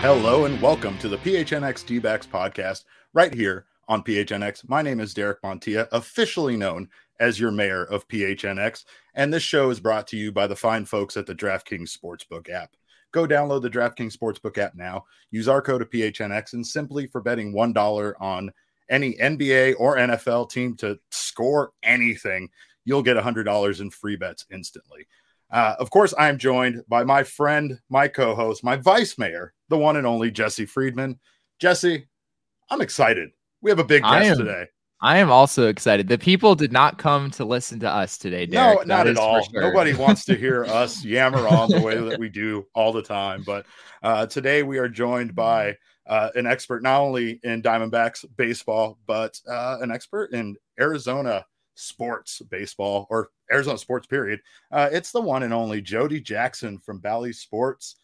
Hello and welcome to the PHNX D-backs podcast right here on PHNX. My name is Derek Montilla, officially known as your mayor of PHNX, and this show is brought to you by the fine folks at the DraftKings Sportsbook app. Go download the DraftKings Sportsbook app now, use our code of PHNX, and simply for betting $1 on any NBA or NFL team to score anything, you'll get $100 in free bets instantly. Of course, I'm joined by my friend, my co-host, my vice mayor, the one and only Jesse Friedman. Jesse, I'm excited. We have a big guest today. I am also excited. The people did not come to listen to us today, Derek. No, not at all. Sure. Nobody wants to hear us yammer on the way that we do all the time. But today we are joined by an expert not only in Diamondbacks baseball, but an expert in Arizona sports baseball, or Arizona sports period. It's the one and only Jody Jackson from Bally Sports.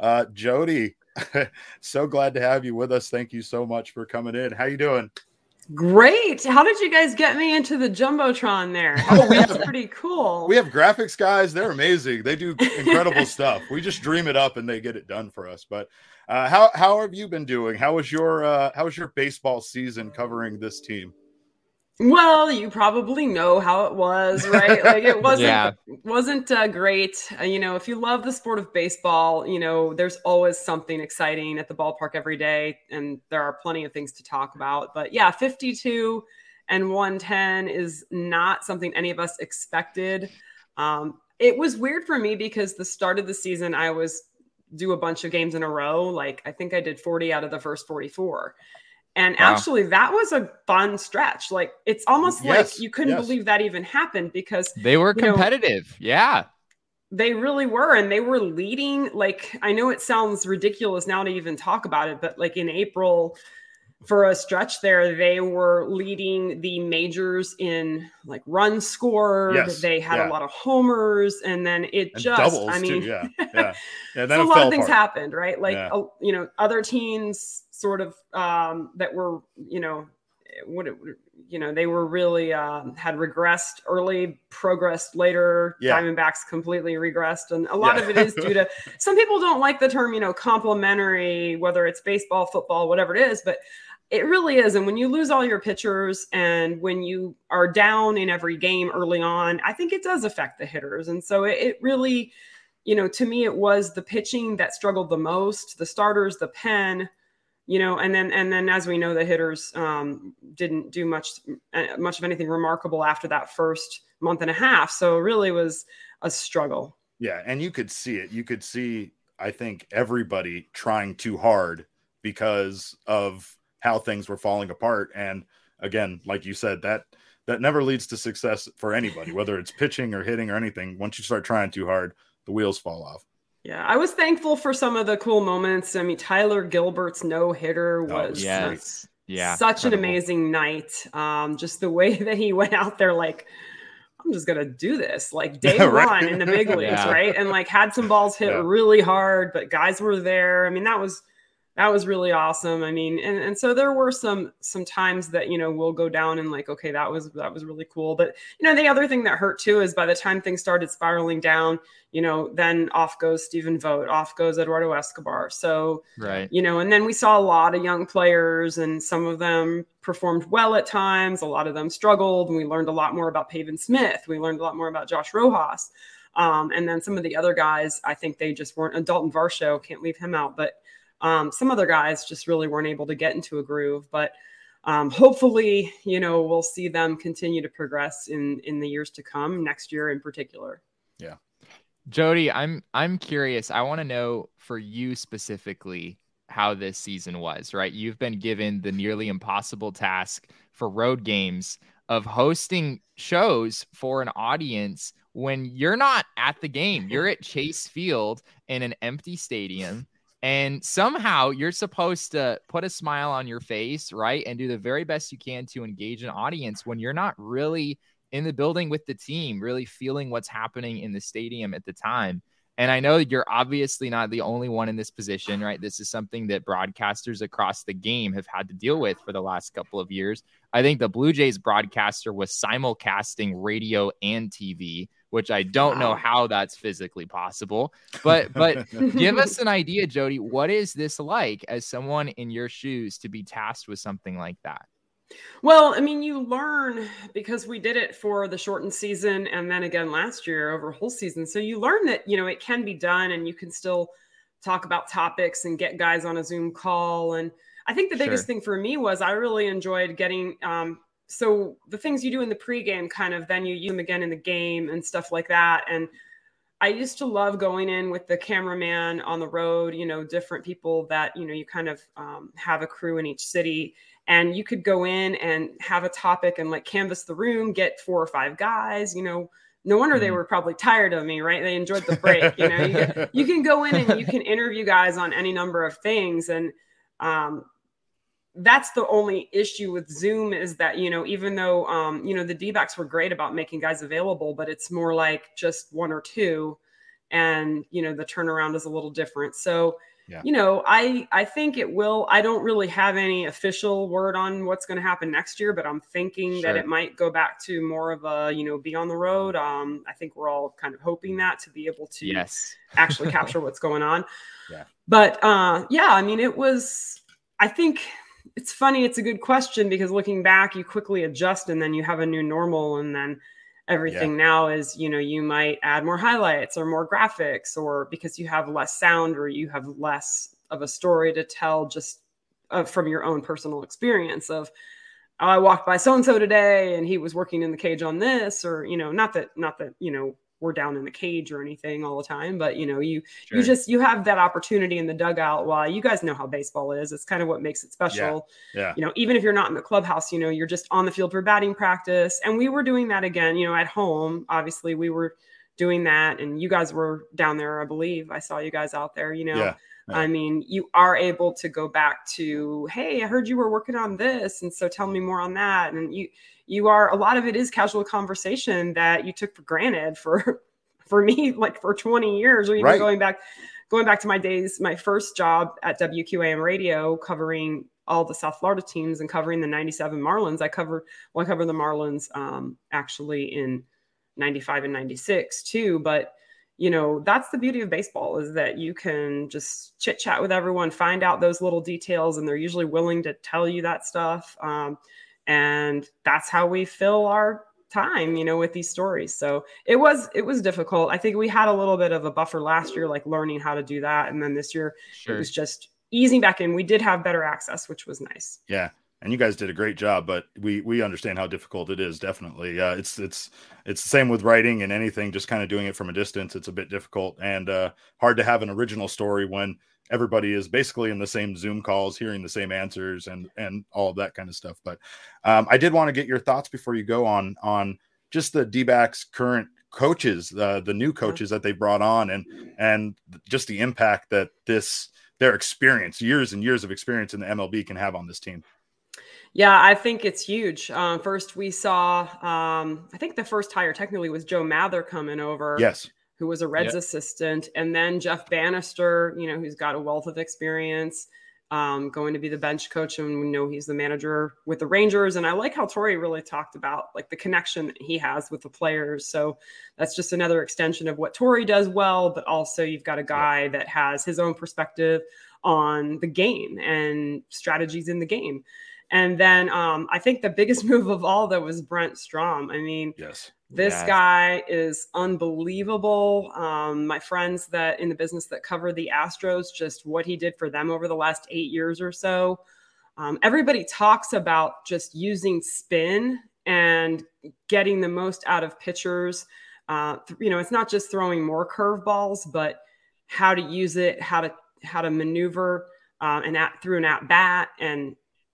Jody, so glad to have you with us. Thank you so much for coming in. How you doing? Great. How did you guys get me into the Jumbotron there? That's pretty cool. We have graphics guys. They're amazing. They do incredible stuff. We just dream it up and they get it done for us. But how have you been doing? How was your baseball season covering this team? Well, you probably know how it was, right? Like it wasn't great. If you love the sport of baseball, there's always something exciting at the ballpark every day, and there are plenty of things to talk about. But yeah, 52 and 110 is not something any of us expected. It was weird for me because the start of the season, I was do a bunch of games in a row. Like I think I did 40 out of the first 44. And actually, that was a fun stretch. Like, it's almost like you couldn't believe that even happened because they were competitive. They really were. And they were leading. Like, I know it sounds ridiculous now to even talk about it, but like in April, for a stretch there, they were leading the majors in like runs scored. Yes. They had a lot of homers, and then it and just, doubles I mean, too. Yeah. Then so a lot of things happened, right? Like, other teams sort of that were, they were really had regressed early, progressed later. Diamondbacks completely regressed. And a lot of it is due to, some people don't like the term, complementary, whether it's baseball, football, whatever it is, but it really is. And when you lose all your pitchers and when you are down in every game early on, I think it does affect the hitters. And so it really, to me, it was the pitching that struggled the most, the starters, the pen, and then as we know, the hitters didn't do much of anything remarkable after that first month and a half. So it really was a struggle. Yeah. And you could see it. You could see, I think, everybody trying too hard because of how things were falling apart. And again, like you said, that never leads to success for anybody, whether it's pitching or hitting or anything. Once you start trying too hard, the wheels fall off. Yeah, I was thankful for some of the cool moments. I mean, Tyler Gilbert's no-hitter was such an amazing night. Just the way that he went out there, like, I'm just going to do this, like day one in the big leagues, right? And like had some balls hit really hard, but guys were there. I mean, that was really awesome. I mean, and so there were some times that, we'll go down and like, okay, that was really cool. But, the other thing that hurt too, is by the time things started spiraling down, then off goes Stephen Vogt, off goes Eduardo Escobar. So, right. And then we saw a lot of young players, and some of them performed well at times. A lot of them struggled, and we learned a lot more about Pavin Smith. We learned a lot more about Josh Rojas. And then some of the other guys, I think they just weren't. Dalton Varsho, can't leave him out, but some other guys just really weren't able to get into a groove, but hopefully, we'll see them continue to progress in the years to come, next year in particular. Yeah. Jody, I'm curious. I want to know for you specifically how this season was, right? You've been given the nearly impossible task for road games of hosting shows for an audience when you're not at the game. You're at Chase Field in an empty stadium. And somehow you're supposed to put a smile on your face, right? And do the very best you can to engage an audience when you're not really in the building with the team, really feeling what's happening in the stadium at the time. And I know you're obviously not the only one in this position, right? This is something that broadcasters across the game have had to deal with for the last couple of years. I think the Blue Jays broadcaster was simulcasting radio and TV, which I don't know how that's physically possible. But give us an idea, Jody. What is this like as someone in your shoes to be tasked with something like that? Well, I mean, you learn because we did it for the shortened season and then again last year over a whole season. So you learn that, it can be done and you can still talk about topics and get guys on a Zoom call. And I think the biggest thing for me was I really enjoyed getting, so the things you do in the pregame kind of then you use them again in the game and stuff like that. And I used to love going in with the cameraman on the road, different people that, you kind of have a crew in each city. And you could go in and have a topic and like canvas the room, get 4 or 5 guys, no wonder they were probably tired of me, right? They enjoyed the break. You can go in and you can interview guys on any number of things. And that's the only issue with Zoom is that, even though, the D-backs were great about making guys available, but it's more like just 1 or 2 and, the turnaround is a little different. So, I think it will. I don't really have any official word on what's going to happen next year, but I'm thinking that it might go back to more of a, be on the road. I think we're all kind of hoping that to be able to actually capture what's going on. Yeah. But I mean, I think it's funny. It's a good question because looking back, you quickly adjust and then you have a new normal and then everything now is, you might add more highlights or more graphics or because you have less sound or you have less of a story to tell just from your own personal experience of, oh, I walked by so-and-so today and he was working in the cage on this or, not that, we're down in the cage or anything all the time, but you have that opportunity in the dugout while you guys know how baseball is. It's kind of what makes it special. Yeah. Even if you're not in the clubhouse, you're just on the field for batting practice. And we were doing that again, at home, obviously we were doing that and you guys were down there. I believe I saw you guys out there, I mean, you are able to go back to, hey, I heard you were working on this. And so tell me more on that. And you are, a lot of it is casual conversation that you took for granted for me, like for 20 years, or even going back to my days, my first job at WQAM radio, covering all the South Florida teams and covering the 97 Marlins. I covered the Marlins actually in 95 and 96 too. But that's the beauty of baseball is that you can just chit chat with everyone, find out those little details, and they're usually willing to tell you that stuff. And that's how we fill our time, with these stories. So it was difficult. I think we had a little bit of a buffer last year, like learning how to do that. And then this year it was just easing back in. We did have better access, which was nice. Yeah. And you guys did a great job, but we understand how difficult it is. Definitely. It's the same with writing and anything, just kind of doing it from a distance. It's a bit difficult and hard to have an original story when everybody is basically in the same Zoom calls, hearing the same answers and all of that kind of stuff. But I did want to get your thoughts before you go on just the D-backs current coaches, the new coaches that they brought on and just the impact that their experience, years and years of experience in the MLB can have on this team. Yeah, I think it's huge. First, we saw, I think the first hire technically was Joe Mather coming over. Yes. Who was a Reds assistant. And then Jeff Bannister, who's got a wealth of experience, going to be the bench coach. And we know he's the manager with the Rangers. And I like how Torey really talked about like the connection that he has with the players. So that's just another extension of what Torey does well, but also you've got a guy that has his own perspective on the game and strategies in the game. And then I think the biggest move of all that was Brent Strom. I mean, this guy is unbelievable. My friends that in the business that cover the Astros, just what he did for them over the last 8 years or so. Everybody talks about just using spin and getting the most out of pitchers. It's not just throwing more curveballs, but how to use it, how to maneuver through an at bat. And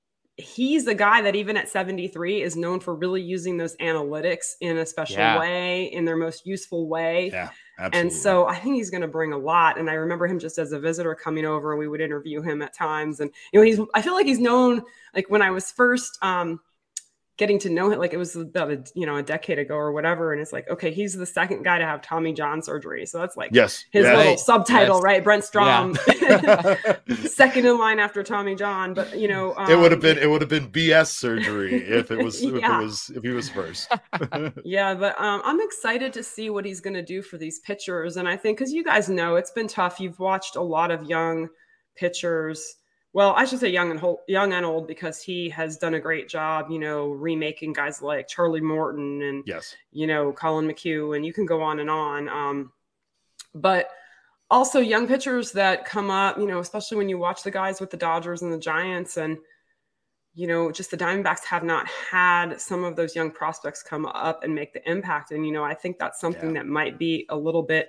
he's the guy that even at 73 is known for really using those analytics in a special way, in their most useful way. Yeah, absolutely. And so I think he's going to bring a lot. And I remember him just as a visitor coming over and we would interview him at times. And, I feel like he's known, like when I was first getting to know him, like it was about a decade ago or whatever. And it's like, okay, he's the second guy to have Tommy John surgery. So that's like his little subtitle, right? Brent Strom, second in line after Tommy John. But it would have been BS surgery if it was if he was first. Yeah, but I'm excited to see what he's going to do for these pitchers. And I think, because you guys know it's been tough. You've watched a lot of young pitchers. Well, I should say young and old, because he has done a great job, remaking guys like Charlie Morton and, Colin McHugh, and you can go on and on. But also young pitchers that come up, especially when you watch the guys with the Dodgers and the Giants, and, just the Diamondbacks have not had some of those young prospects come up and make the impact. And, I think that's something that might be a little bit,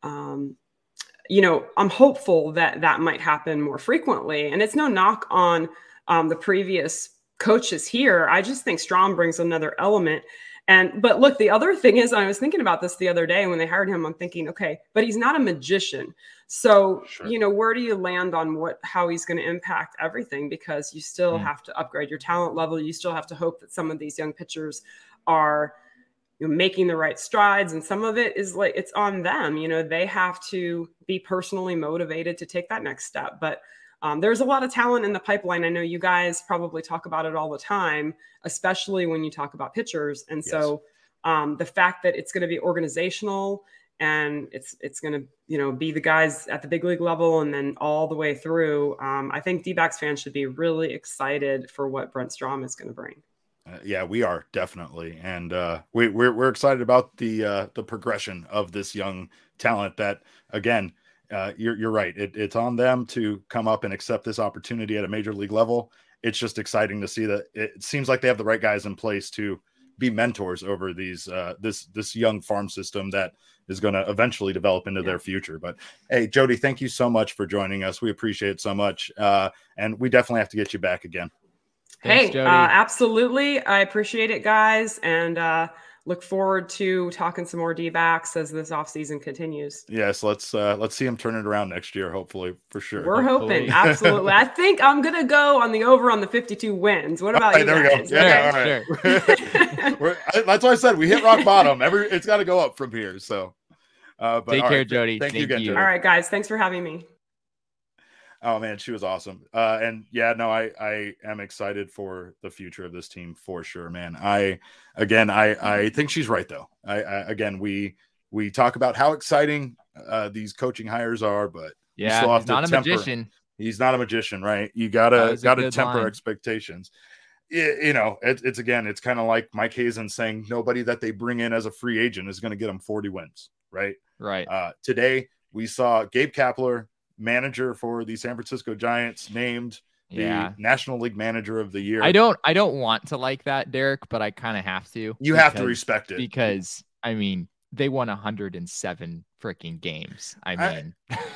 I'm hopeful that might happen more frequently. And it's no knock on the previous coaches here. I just think Strom brings another element. But look, the other thing is, I was thinking about this the other day when they hired him, I'm thinking, okay, but he's not a magician. So, where do you land on how he's going to impact everything? Because you still have to upgrade your talent level. You still have to hope that some of these young pitchers are making the right strides, and some of it is like it's on them. They have to be personally motivated to take that next step. But there's a lot of talent in the pipeline. I know you guys probably talk about it all the time, especially when you talk about pitchers. And so the fact that it's going to be organizational and it's going to be the guys at the big league level and then all the way through, I think D-backs fans should be really excited for what Brent Strom is going to bring. Yeah, we are definitely, and we're excited about the progression of this young talent. That again, you're right. It's on them to come up and accept this opportunity at a major league level. It's just exciting to see that it seems like they have the right guys in place to be mentors over these this young farm system that is going to eventually develop into their future. But hey, Jody, thank you so much for joining us. We appreciate it so much, and we definitely have to get you back again. Thanks, Jody. Absolutely. I appreciate it, guys. And look forward to talking some more D-backs as this offseason continues. Yes. Let's see him turn it around next year. Hopefully, for sure. We're hoping. Absolutely. I think I'm going to go on the over on the 52 wins. What about you there guys? We go. Yeah. All right. That's why I said we hit rock bottom. It's got to go up from here. So take care, Jody. Thank you again, Jody. All right, guys. Thanks for having me. Oh man, she was awesome. And yeah, no, I am excited for the future of this team for sure, man. I think she's right though. We talk about how exciting these coaching hires are, but he's not a magician. He's not a magician, right? You gotta temper expectations. It's kind of like Mike Hazen saying nobody that they bring in as a free agent is going to get them 40 wins, right? Right. Today we saw Gabe Kapler, manager for the San Francisco Giants, named the National League Manager of the Year. I don't want to like that, Derek, but I kind of have to. You have to respect it because I mean they won 107 freaking games. And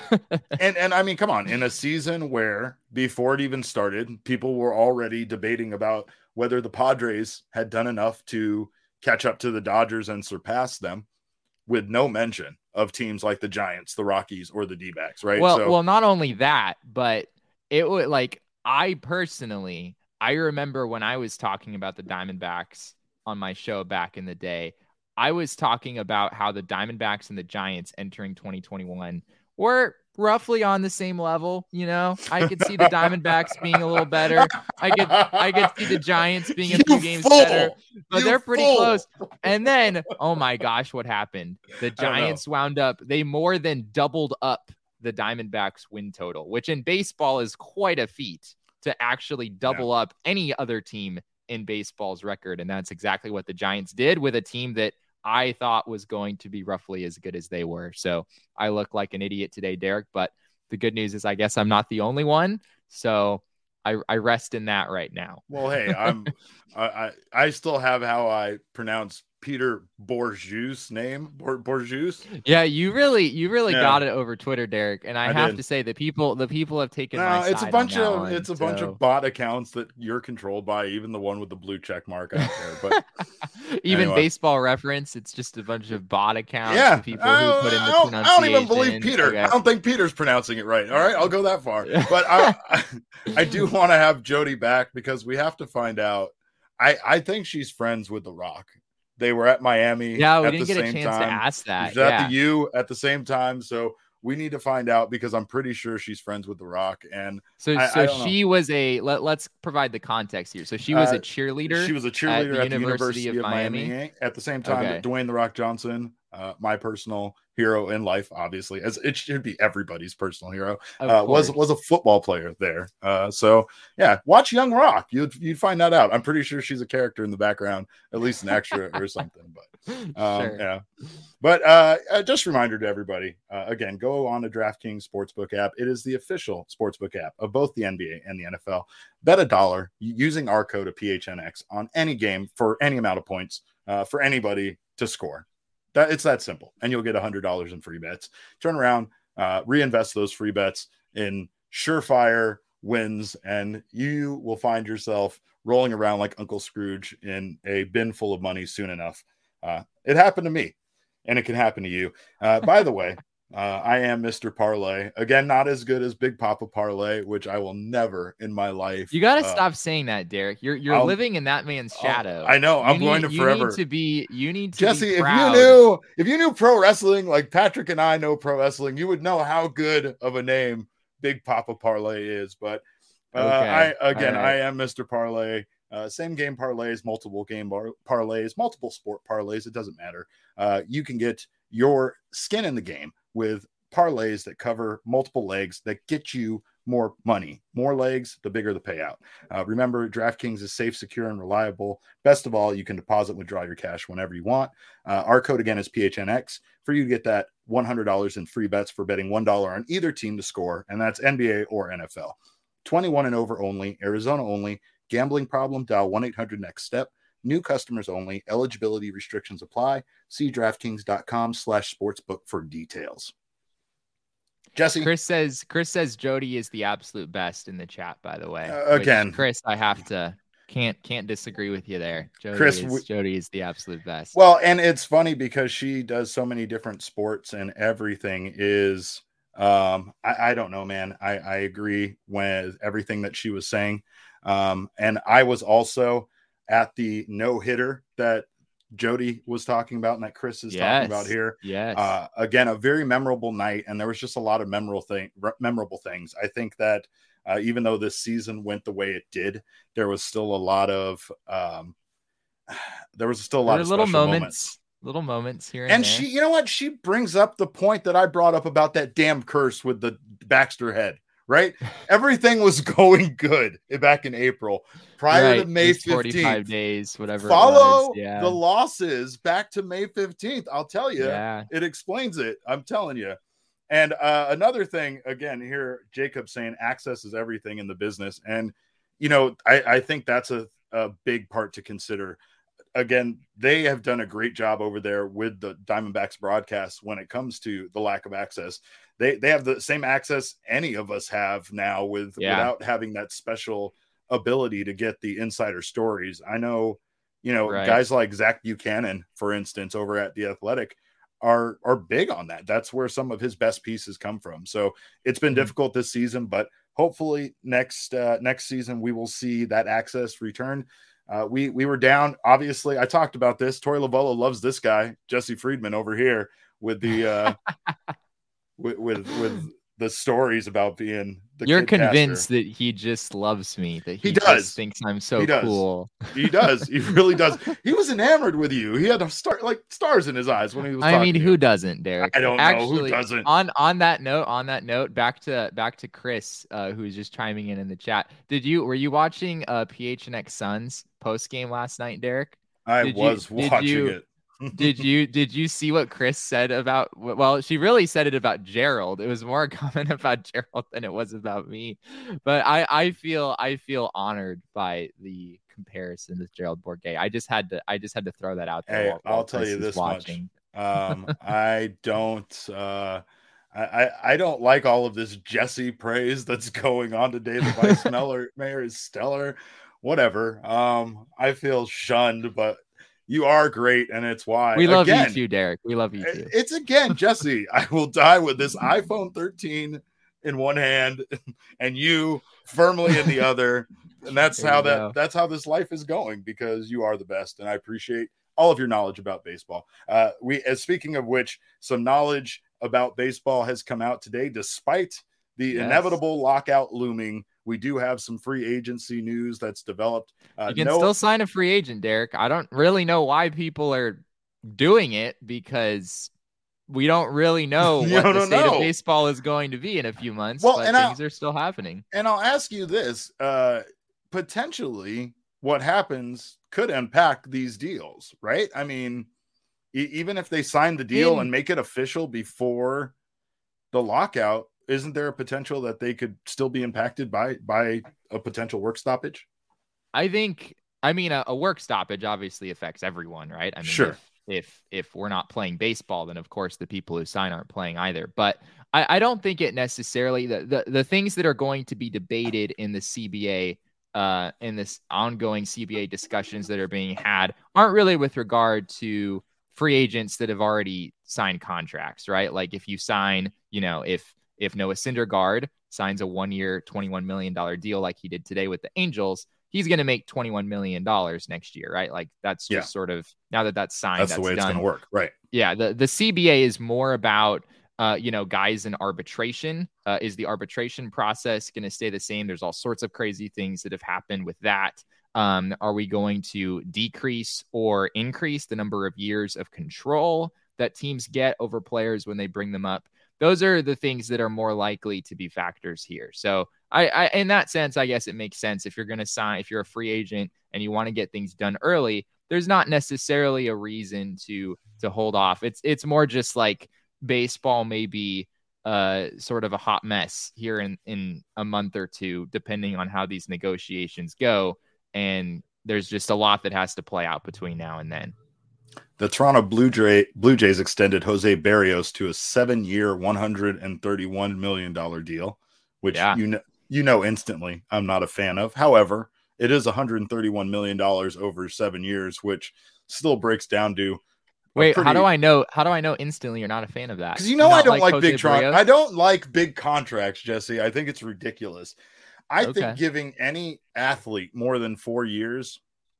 I mean, come on, in a season where before it even started, people were already debating about whether the Padres had done enough to catch up to the Dodgers and surpass them, with no mention of teams like the Giants, the Rockies, or the D-backs, right? Well, not only that, but it would I remember when I was talking about the Diamondbacks on my show back in the day, I was talking about how the Diamondbacks and the Giants entering 2021 were roughly on the same level. I could see the Diamondbacks being a little better. I could see the Giants being a few games better, but they're pretty close. And then, oh my gosh, what happened? The Giants wound up, they more than doubled up the Diamondbacks win total, which in baseball is quite a feat to actually double up any other team in baseball's record. And that's exactly what the Giants did with a team that I thought was going to be roughly as good as they were. So I look like an idiot today, Derek, but the good news is I guess I'm not the only one. So I rest in that right now. Well, hey, I still have how I pronounce Peter Bourjeu's name. Bourjeu's. Yeah, you really got it over Twitter, Derek. And I have to say the people have taken my side. It's a bunch of bot accounts that you're controlled by, even the one with the blue check mark out there. But even anyway. Baseball Reference, it's just a bunch of bot accounts. Yeah, people who put in the pronunciation. I don't even believe Peter. Okay. I don't think Peter's pronouncing it right. All right, I'll go that far. But I do want to have Jody back because we have to find out. I think she's friends with The Rock. They were at Miami. Yeah, we at didn't the get a same chance time. to ask that. She's at the U at the same time. So we need to find out because I'm pretty sure she's friends with The Rock. And so she was let's provide the context here. So she was a cheerleader. She was a cheerleader at the University of Miami. At the same time, Dwayne The Rock Johnson, my personal hero in life, obviously, as it should be everybody's personal hero, was a football player there. So yeah, watch Young Rock. You'd find that out. I'm pretty sure she's a character in the background, at least an extra or something. But sure. Yeah. But just a reminder to everybody, again, go on to DraftKings Sportsbook app. It is the official sportsbook app of both the NBA and the NFL. Bet $1 using our code of PHNX on any game for any amount of points for anybody to score. It's that simple, and you'll get $100 in free bets. Turn around, reinvest those free bets in surefire wins, and you will find yourself rolling around like Uncle Scrooge in a bin full of money soon enough. It happened to me, and it can happen to you. By the way, I am Mr. Parlay. Again, not as good as Big Papa Parlay, which I will never in my life. You got to stop saying that, Derek. You're living in that man's shadow. I know. I'm going to forever. You need to Jesse, be proud. if you knew pro wrestling like Patrick and I know pro wrestling, you would know how good of a name Big Papa Parlay is. But I am Mr. Parlay. Same game parlays, multiple game parlays, multiple sport parlays. It doesn't matter. You can get your skin in the game with parlays that cover multiple legs that get you more money. More legs, the bigger the payout. Remember, DraftKings is safe, secure, and reliable. Best of all, you can deposit and withdraw your cash whenever you want. Our code again is PHNX for you to get that $100 in free bets for betting $1 on either team to score, and that's NBA or NFL. 21 and over only, Arizona only. Gambling problem? Dial 1-800-NEXT-STEP. New customers only. Eligibility restrictions apply. See DraftKings.com/sportsbook for details. Jesse, Chris says Jody is the absolute best in the chat. By the way, again, Chris, I have to can't disagree with you there. Jody is the absolute best. Well, and it's funny because she does so many different sports and everything is. I don't know, man. I agree with everything that she was saying. And I was also at the no-hitter that Jody was talking about and that Chris is talking about here. Yes. Again, a very memorable night, and there was just a lot of memorable things. I think that even though this season went the way it did, there was still a lot of little moments. Little moments here and there. She, you know what? She brings up the point that I brought up about that damn curse with the Baxter head. Right? Everything was going good back in April prior to May 15th. 45 days, whatever. Follow the losses back to May 15th. I'll tell you, it explains it. I'm telling you. And another thing, again, here, Jacob saying access is everything in the business. And, you know, I think that's a big part to consider. Again, they have done a great job over there with the Diamondbacks broadcast when it comes to the lack of access. They have the same access any of us have now without having that special ability to get the insider stories. I know, guys like Zach Buchanan, for instance, over at The Athletic are big on that. That's where some of his best pieces come from. So it's been difficult this season, but hopefully next season we will see that access return. We were down. Obviously, I talked about this. Tori Lavello loves this guy, Jesse Friedman, over here with the with the stories about being the You're kid convinced caster. that he just loves me, that he does. Just thinks I'm so cool. He does. He really does. He was enamored with you. He had stars in his eyes when he was talking to you. Who doesn't, Derek? I don't know who doesn't. On that note, back to Chris, who's just chiming in the chat. Were you watching PHNX Suns post game last night, Derek? I was watching it. Did you see what Chris said about? Well, she really said it about Gerald. It was more a comment about Gerald than it was about me. But I feel honored by the comparison with Gerald Bourguet. I just had to throw that out there. Hey, I'll tell you this much. I don't like all of this Jesse praise that's going on today. The vice mayor is stellar. Whatever. I feel shunned, but you are great, and it's why. We love you too, Derek. We love you too. It's again, Jesse, I will die with this iPhone 13 in one hand and you firmly in the other. And that's how this life is going, because you are the best. And I appreciate all of your knowledge about baseball. Speaking of which, some knowledge about baseball has come out today, despite the inevitable lockout looming. We do have some free agency news that's developed. You can still sign a free agent, Derek. I don't really know why people are doing it, because we don't really know what the state of baseball is going to be in a few months, but things are still happening. And I'll ask you this, potentially what happens could impact these deals, right? I mean, even if they sign the deal and make it official before the lockout, isn't there a potential that they could still be impacted by a potential work stoppage? I mean, a work stoppage obviously affects everyone, right? I mean, sure. If we're not playing baseball, then of course the people who sign aren't playing either. But I don't think it necessarily, the things that are going to be debated in the CBA, in this ongoing CBA discussions that are being had, aren't really with regard to free agents that have already signed contracts, right? Like if you sign, if Noah Syndergaard signs a 1-year, $21 million deal like he did today with the Angels, he's going to make $21 million next year, right? Like that's just sort of, now that that's signed, that's the way it's going to work, right? Yeah, the CBA is more about, guys in arbitration. Is the arbitration process going to stay the same? There's all sorts of crazy things that have happened with that. Are we going to decrease or increase the number of years of control that teams get over players when they bring them up? Those are the things that are more likely to be factors here. So I in that sense, I guess it makes sense. If you're going to sign, if you're a free agent and you want to get things done early, there's not necessarily a reason to hold off. It's more just like baseball may be sort of a hot mess here in a month or two, depending on how these negotiations go. And there's just a lot that has to play out between now and then. The Toronto Blue Jays extended Jose Berrios to a 7-year, $131 million deal, which instantly I'm not a fan of. However, it is $131 million over 7 years, which still breaks down to. Wait, how do I know instantly you're not a fan of that? Because I don't like big I don't like big contracts, Jesse. I think it's ridiculous. I think giving any athlete more than 4 years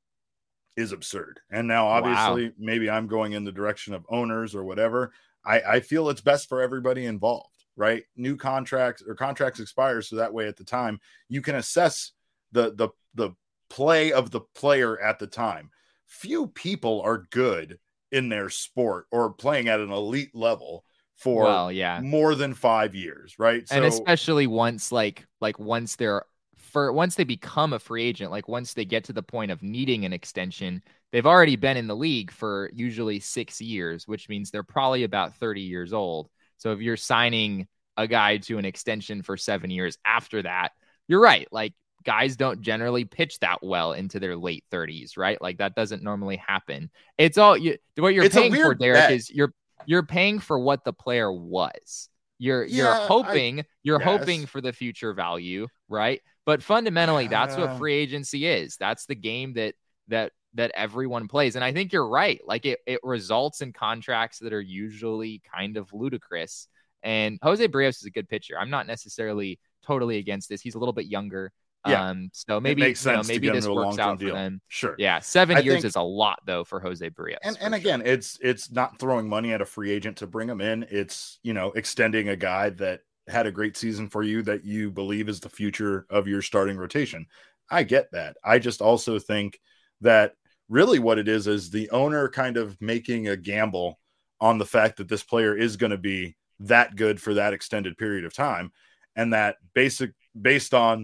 is absurd. And now obviously maybe I'm going in the direction of owners or whatever. I feel it's best for everybody involved, right? New contracts expire, so that way at the time you can assess the play of the player at the time. Few people are good in their sport or playing at an elite level for more than 5 years, right? And especially once once they become a free agent, like once they get to the point of needing an extension, they've already been in the league for usually 6 years, which means they're probably about 30 years old. So if you're signing a guy to an extension for 7 years after that, you're right. Like guys don't generally pitch that well into their late 30s, right? Like that doesn't normally happen. It's all what you're paying for, Derek, is you're paying for what the player was. You're hoping for the future value, right? But fundamentally, that's what free agency is. That's the game that everyone plays. And I think you're right. Like it results in contracts that are usually kind of ludicrous. And Jose Berrios is a good pitcher. I'm not necessarily totally against this. He's a little bit younger. So maybe this works out for them. Sure. Yeah. 7 years is a lot though for Jose Berrios. And again, it's not throwing money at a free agent to bring him in. It's, extending a guy that had a great season for you that you believe is the future of your starting rotation. I get that. I just also think that really what it is the owner kind of making a gamble on the fact that this player is going to be that good for that extended period of time. And that based on,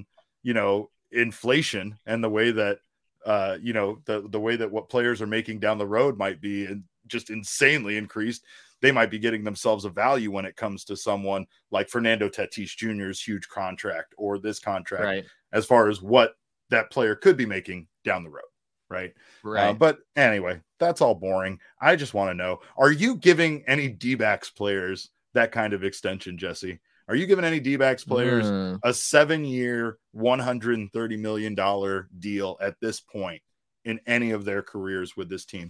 inflation and the way that, the way that what players are making down the road might be just insanely increased. They might be getting themselves a value when it comes to someone like Fernando Tatis Jr.'s huge contract or this contract, right, as far as what that player could be making down the road. Right. But anyway, that's all boring. I just want to know, are you giving any D-backs players that kind of extension, Jesse? Are you giving any D-backs players a 7-year, $130 million deal at this point in any of their careers with this team?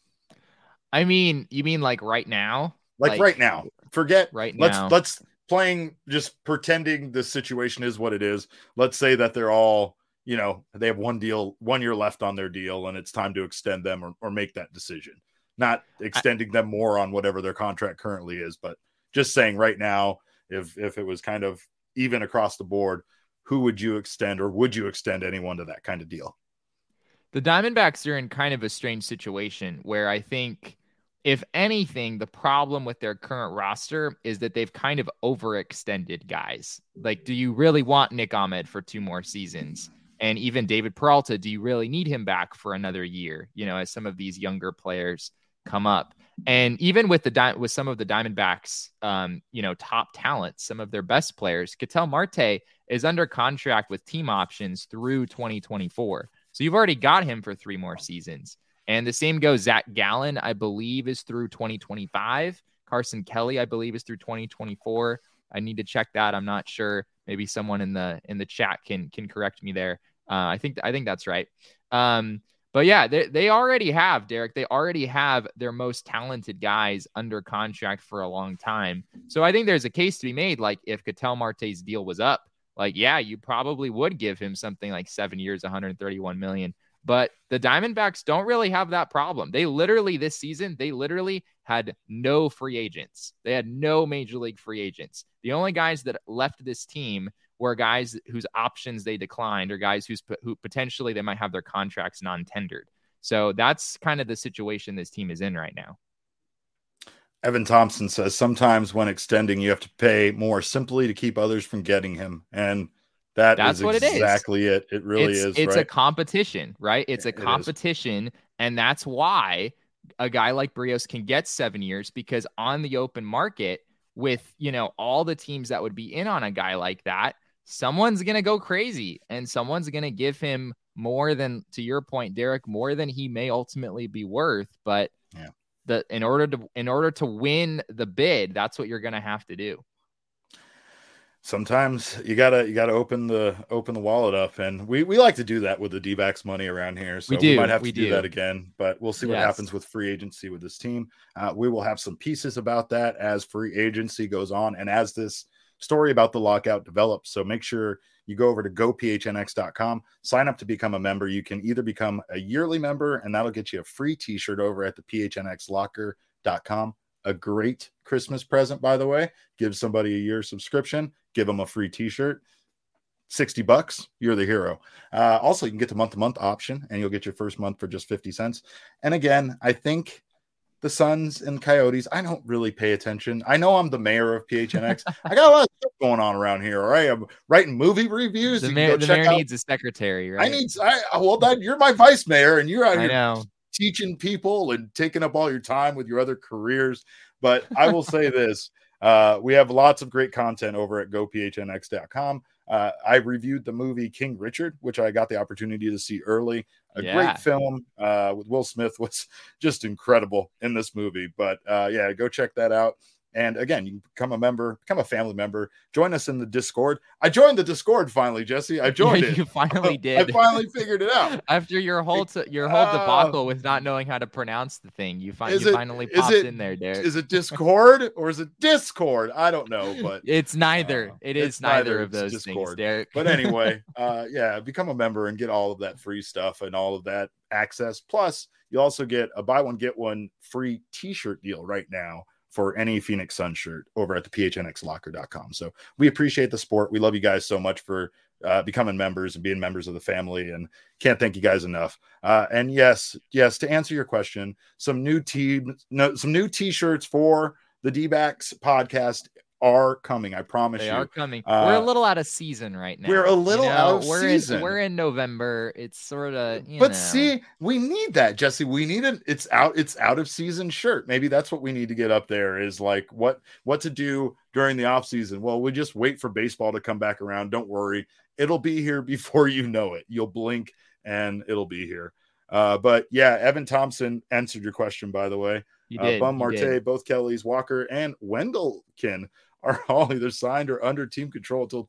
I mean, you mean like right now? Like right now. Forget right now. Let's playing, just pretending the situation is what it is. Let's say that they're all, you know, they have 1 year left on their deal and it's time to extend them or make that decision. Not extending them more on whatever their contract currently is, but just saying right now, if it was kind of even across the board, who would you extend, or would you extend anyone to that kind of deal? The Diamondbacks are in kind of a strange situation where I think, if anything, the problem with their current roster is that they've kind of overextended guys. Like, do you really want Nick Ahmed for 2 more seasons? And even David Peralta, do you really need him back for another year? You know, as some of these younger players come up. And even with some of the Diamondbacks, you know, top talent, some of their best players, Ketel Marte is under contract with team options through 2024. So you've already got him for 3 more seasons. And the same goes, Zach Gallen, I believe, is through 2025. Carson Kelly, I believe, is through 2024. I need to check that. I'm not sure. Maybe someone in the chat can correct me there. I think that's right. But yeah, they already have, Derek. They already have their most talented guys under contract for a long time. So I think there's a case to be made. Like, if Ketel Marte's deal was up, like, yeah, you probably would give him something like 7 years, $131 million. But the Diamondbacks don't really have that problem. This season, they literally had no free agents. They had no major league free agents. The only guys that left this team were guys whose options they declined, or guys who potentially they might have their contracts non-tendered. So that's kind of the situation this team is in right now. Evan Thompson says sometimes when extending, you have to pay more simply to keep others from getting him. And that's what exactly it. It really is. It's a competition, right? It's a competition. And that's why a guy like Berrios can get 7 years, because on the open market, with, you know, all the teams that would be in on a guy like that, someone's going to go crazy and someone's going to give him more than, to your point, Derek, more than he may ultimately be worth. But in order to win the bid, that's what you're going to have to do. Sometimes you gotta open the wallet up, and we like to do that with the D-backs money around here. So we might have to do that again, but we'll see what happens with free agency with this team. We will have some pieces about that as free agency goes on, and as this story about the lockout develops. So make sure you go over to gophnx.com, sign up to become a member. You can either become a yearly member, and that'll get you a free t-shirt over at the phnxlocker.com. A great Christmas present, by the way. Give somebody a year subscription, give them a free t-shirt. $60, you're the hero. Also, you can get the month-to-month option, and you'll get your first month for just 50 cents. And again, I think the Suns and Coyotes, I don't really pay attention. I know I'm the mayor of PHNX. I got a lot of stuff going on around here, all right? I'm writing movie reviews. The mayor needs a secretary, right? You're my vice mayor, and you're out here. I know. Teaching people and taking up all your time with your other careers. But I will say this, we have lots of great content over at gophnx.com. I reviewed the movie King Richard, which I got the opportunity to see early. Great film with Will Smith was just incredible in this movie. But go check that out. And again, you can become a member, become a family member, join us in the Discord. I joined the Discord finally, Jesse. I joined it. You finally did. I finally figured it out. After your whole debacle with not knowing how to pronounce the thing, you finally popped in there, Derek. Is it Discord or is it Discord? I don't know, but it's neither. It's neither of those things, Derek. But anyway, become a member and get all of that free stuff and all of that access. Plus, you also get a buy one, get one free t-shirt deal right now for any Phoenix Sun shirt over at the phnxlocker.com. So we appreciate the support. We love you guys so much for becoming members and being members of the family, and can't thank you guys enough. And yes, to answer your question, some new t-shirts for the D-backs podcast are coming. I promise they you. They are coming. We're a little out of season right now. We're a little out of season. We're in November. It's sort of, see, we need that, Jesse. We need it's out of season shirt. Maybe that's what we need to get up there, is like what to do during the off season. Well, we just wait for baseball to come back around. Don't worry. It'll be here before you know it. You'll blink and it'll be here. But yeah, Evan Thompson answered your question, by the way. Bum Marte, both Kellys, Walker, and Wendelken are all either signed or under team control until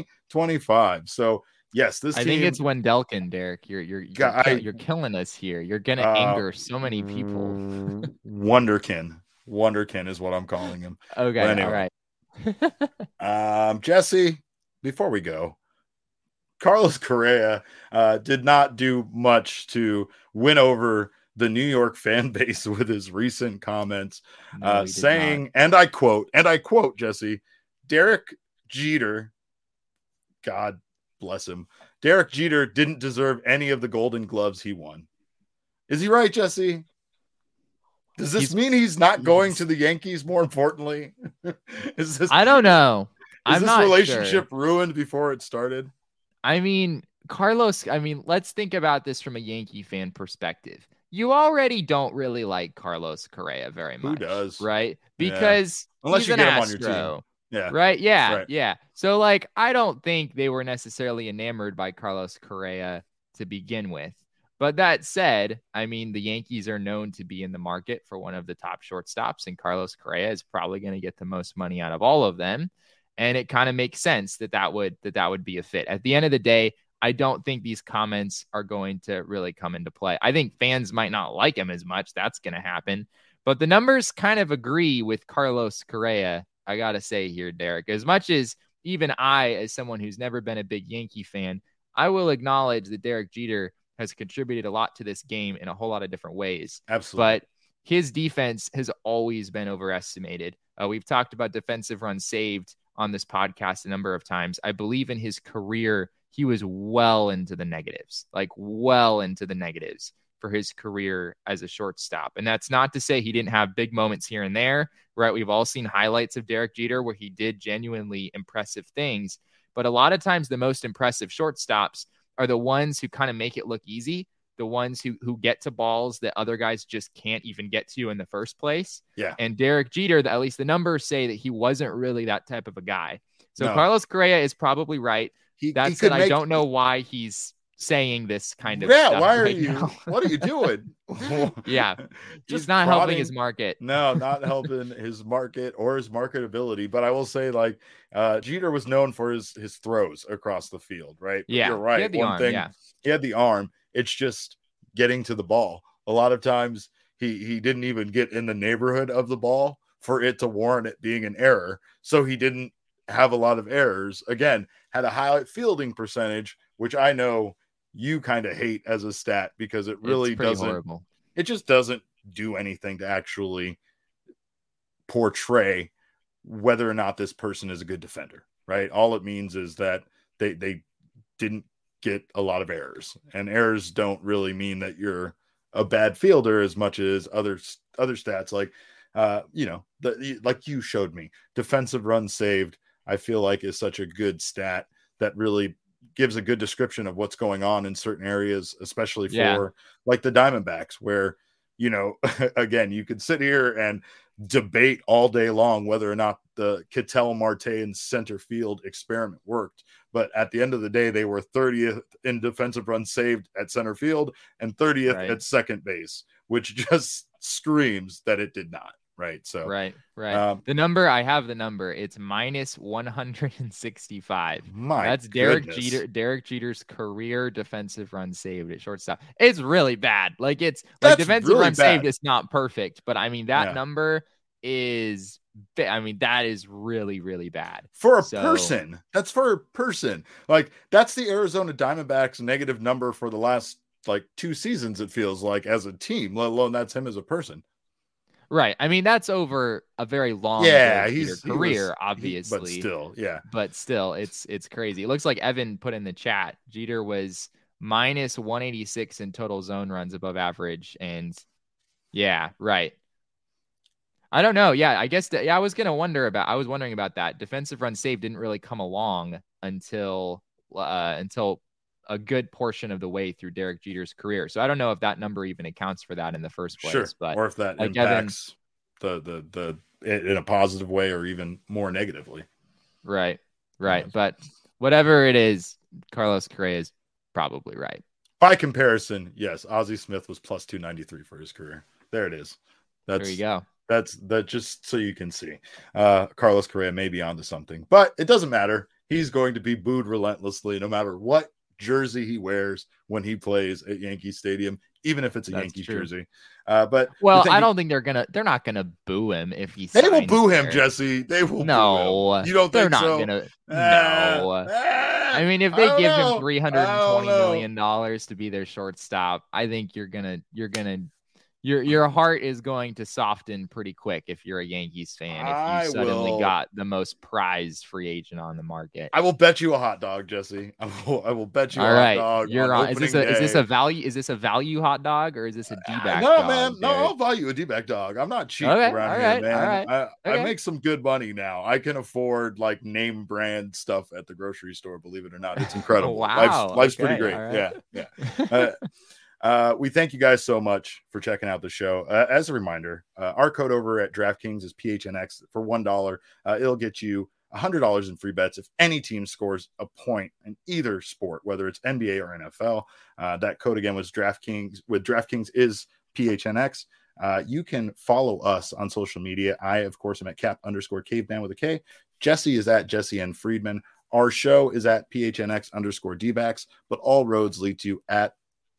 2025. So yes, I think it's Wendelken, Derek. You're killing us here. You're gonna anger so many people. Wonderkin is what I'm calling him. Okay, anyway. All right. Jesse, before we go, Carlos Correa did not do much to win over the New York fan base with his recent comments, saying, and I quote, Jesse, Derek Jeter, God bless him, Derek Jeter didn't deserve any of the Golden Gloves he won. Is he right, Jesse? Does this mean he's not going to the Yankees, more importantly? I don't know. Is this relationship ruined before it started? I mean, Carlos, let's think about this from a Yankee fan perspective. You already don't really like Carlos Correa very much. Who does? Right? Because unless he's you an get him Astro, on your team. Yeah. Right? Yeah. So, I don't think they were necessarily enamored by Carlos Correa to begin with. But that said, the Yankees are known to be in the market for one of the top shortstops, and Carlos Correa is probably going to get the most money out of all of them. And it kind of makes sense that would be a fit. At the end of the day, I don't think these comments are going to really come into play. I think fans might not like him as much. That's going to happen. But the numbers kind of agree with Carlos Correa, I got to say here, Derek. As much as even I, as someone who's never been a big Yankee fan, I will acknowledge that Derek Jeter has contributed a lot to this game in a whole lot of different ways. Absolutely. But his defense has always been overestimated. We've talked about defensive runs saved on this podcast a number of times. I believe in his career, he was well into the negatives for his career as a shortstop. And that's not to say he didn't have big moments here and there, right? We've all seen highlights of Derek Jeter where he did genuinely impressive things. But a lot of times the most impressive shortstops are the ones who kind of make it look easy, the ones who get to balls that other guys just can't even get to in the first place. Yeah. And Derek Jeter, at least the numbers say that he wasn't really that type of a guy. So Carlos Correa is probably right. I don't know why he's saying this kind of stuff. Why are you? What are you doing? Yeah, just not helping his market. No, not helping his market or his marketability. But I will say, Jeter was known for his throws across the field, right? But yeah, you're right. He had the arm. He had the arm. It's just getting to the ball. A lot of times he didn't even get in the neighborhood of the ball for it to warrant it being an error. So he didn't have a lot of errors. Again, had a high fielding percentage, which I know you kind of hate as a stat because it really doesn't. Horrible. It just doesn't do anything to actually portray whether or not this person is a good defender, right? All it means is that they didn't get a lot of errors, and errors don't really mean that you're a bad fielder as much as other stats like like you showed me defensive runs saved. I feel like is such a good stat that really gives a good description of what's going on in certain areas, especially for like the Diamondbacks, where, again, you could sit here and debate all day long whether or not the Ketel Marte in center field experiment worked. But at the end of the day, they were 30th in defensive runs saved at center field and 30th at second base, which just screams that it did not. Right. So right. The number, I have the number. It's minus 165. That's Derek Jeter's career defensive run saved at shortstop. It's really bad. Defensive run saved is not perfect, but that number is, that is really, really bad for a person. That's for a person. That's the Arizona Diamondbacks negative number for the last 2 seasons. It feels like as a team, let alone that's him as a person. Right. That's over a very long career, obviously. But still, it's crazy. It looks like Evan put in the chat, Jeter was minus 186 in total zone runs above average. And yeah, right. I don't know. Yeah, I guess I was wondering about that. Defensive run save didn't really come along until a good portion of the way through Derek Jeter's career. So I don't know if that number even accounts for that in the first place. Sure. But or if that impacts the in a positive way or even more negatively. Right. Yes. But whatever it is, Carlos Correa is probably right. By comparison, yes, Ozzie Smith was plus 293 for his career. There it is. There you go. That's just so you can see. Carlos Correa may be onto something, but it doesn't matter. He's going to be booed relentlessly no matter what jersey he wears when he plays at Yankee Stadium, even if it's a Yankees jersey. But I don't think they're not gonna boo him if he. They will boo him, Jesse. They will. No, boo him. You don't think they're not so? gonna. No. I mean, if they give him $320 million to be their shortstop, I think your heart is going to soften pretty quick if you're a Yankees fan. If you suddenly got the most prized free agent on the market, I will bet you a hot dog, Jesse. I will bet you hot dog. You're on. Is this a value? Is this a value hot dog or is this a D-back no, dog? Man. No, I'll value a D-back dog. I'm not cheap around here, man. I make some good money now. I can afford like name brand stuff at the grocery store. Believe it or not, it's incredible. Wow, life's pretty great. Right. Yeah. We thank you guys so much for checking out the show. As a reminder, our code over at DraftKings is PHNX for $1. It'll get you $100 in free bets if any team scores a point in either sport, whether it's NBA or NFL. That code again was DraftKings. With DraftKings is PHNX. You can follow us on social media. I, of course, am at Cap_Caveman with a K. Jesse is at Jesse N. Friedman. Our show is at PHNX_DBacks, but all roads lead to at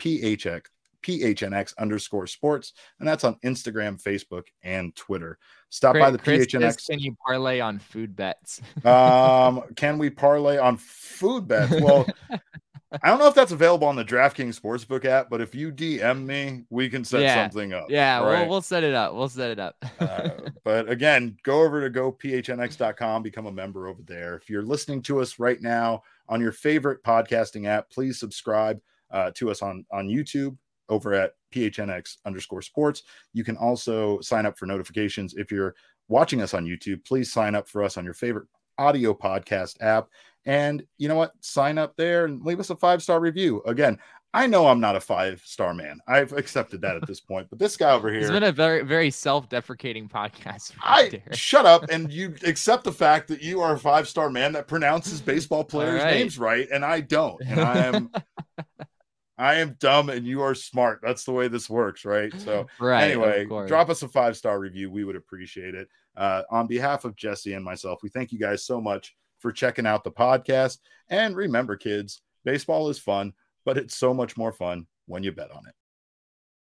PHNX_sports, and that's on Instagram, Facebook, and Twitter. Stop by the PHNX. Can you parlay on food bets? Can we parlay on food bets? Well, I don't know if that's available on the DraftKings Sportsbook app, but if you DM me, we can set something up. Yeah, right? we'll set it up. But again, go over to gophnx.com, become a member over there. If you're listening to us right now on your favorite podcasting app, please subscribe to us on YouTube over at PHNX_sports. You can also sign up for notifications. If you're watching us on YouTube, please sign up for us on your favorite audio podcast app. And you know what? Sign up there and leave us a 5-star review. Again, I know I'm not a 5-star man. I've accepted that at this point, but this guy over here. It's been a very, very self-deprecating podcast. Shut up and you accept the fact that you are a 5-star man that pronounces baseball players' names right, and I don't. And I am dumb and you are smart. That's the way this works, right? So anyway, drop us a 5-star review. We would appreciate it. On behalf of Jesse and myself, we thank you guys so much for checking out the podcast. And remember, kids, baseball is fun, but it's so much more fun when you bet on it.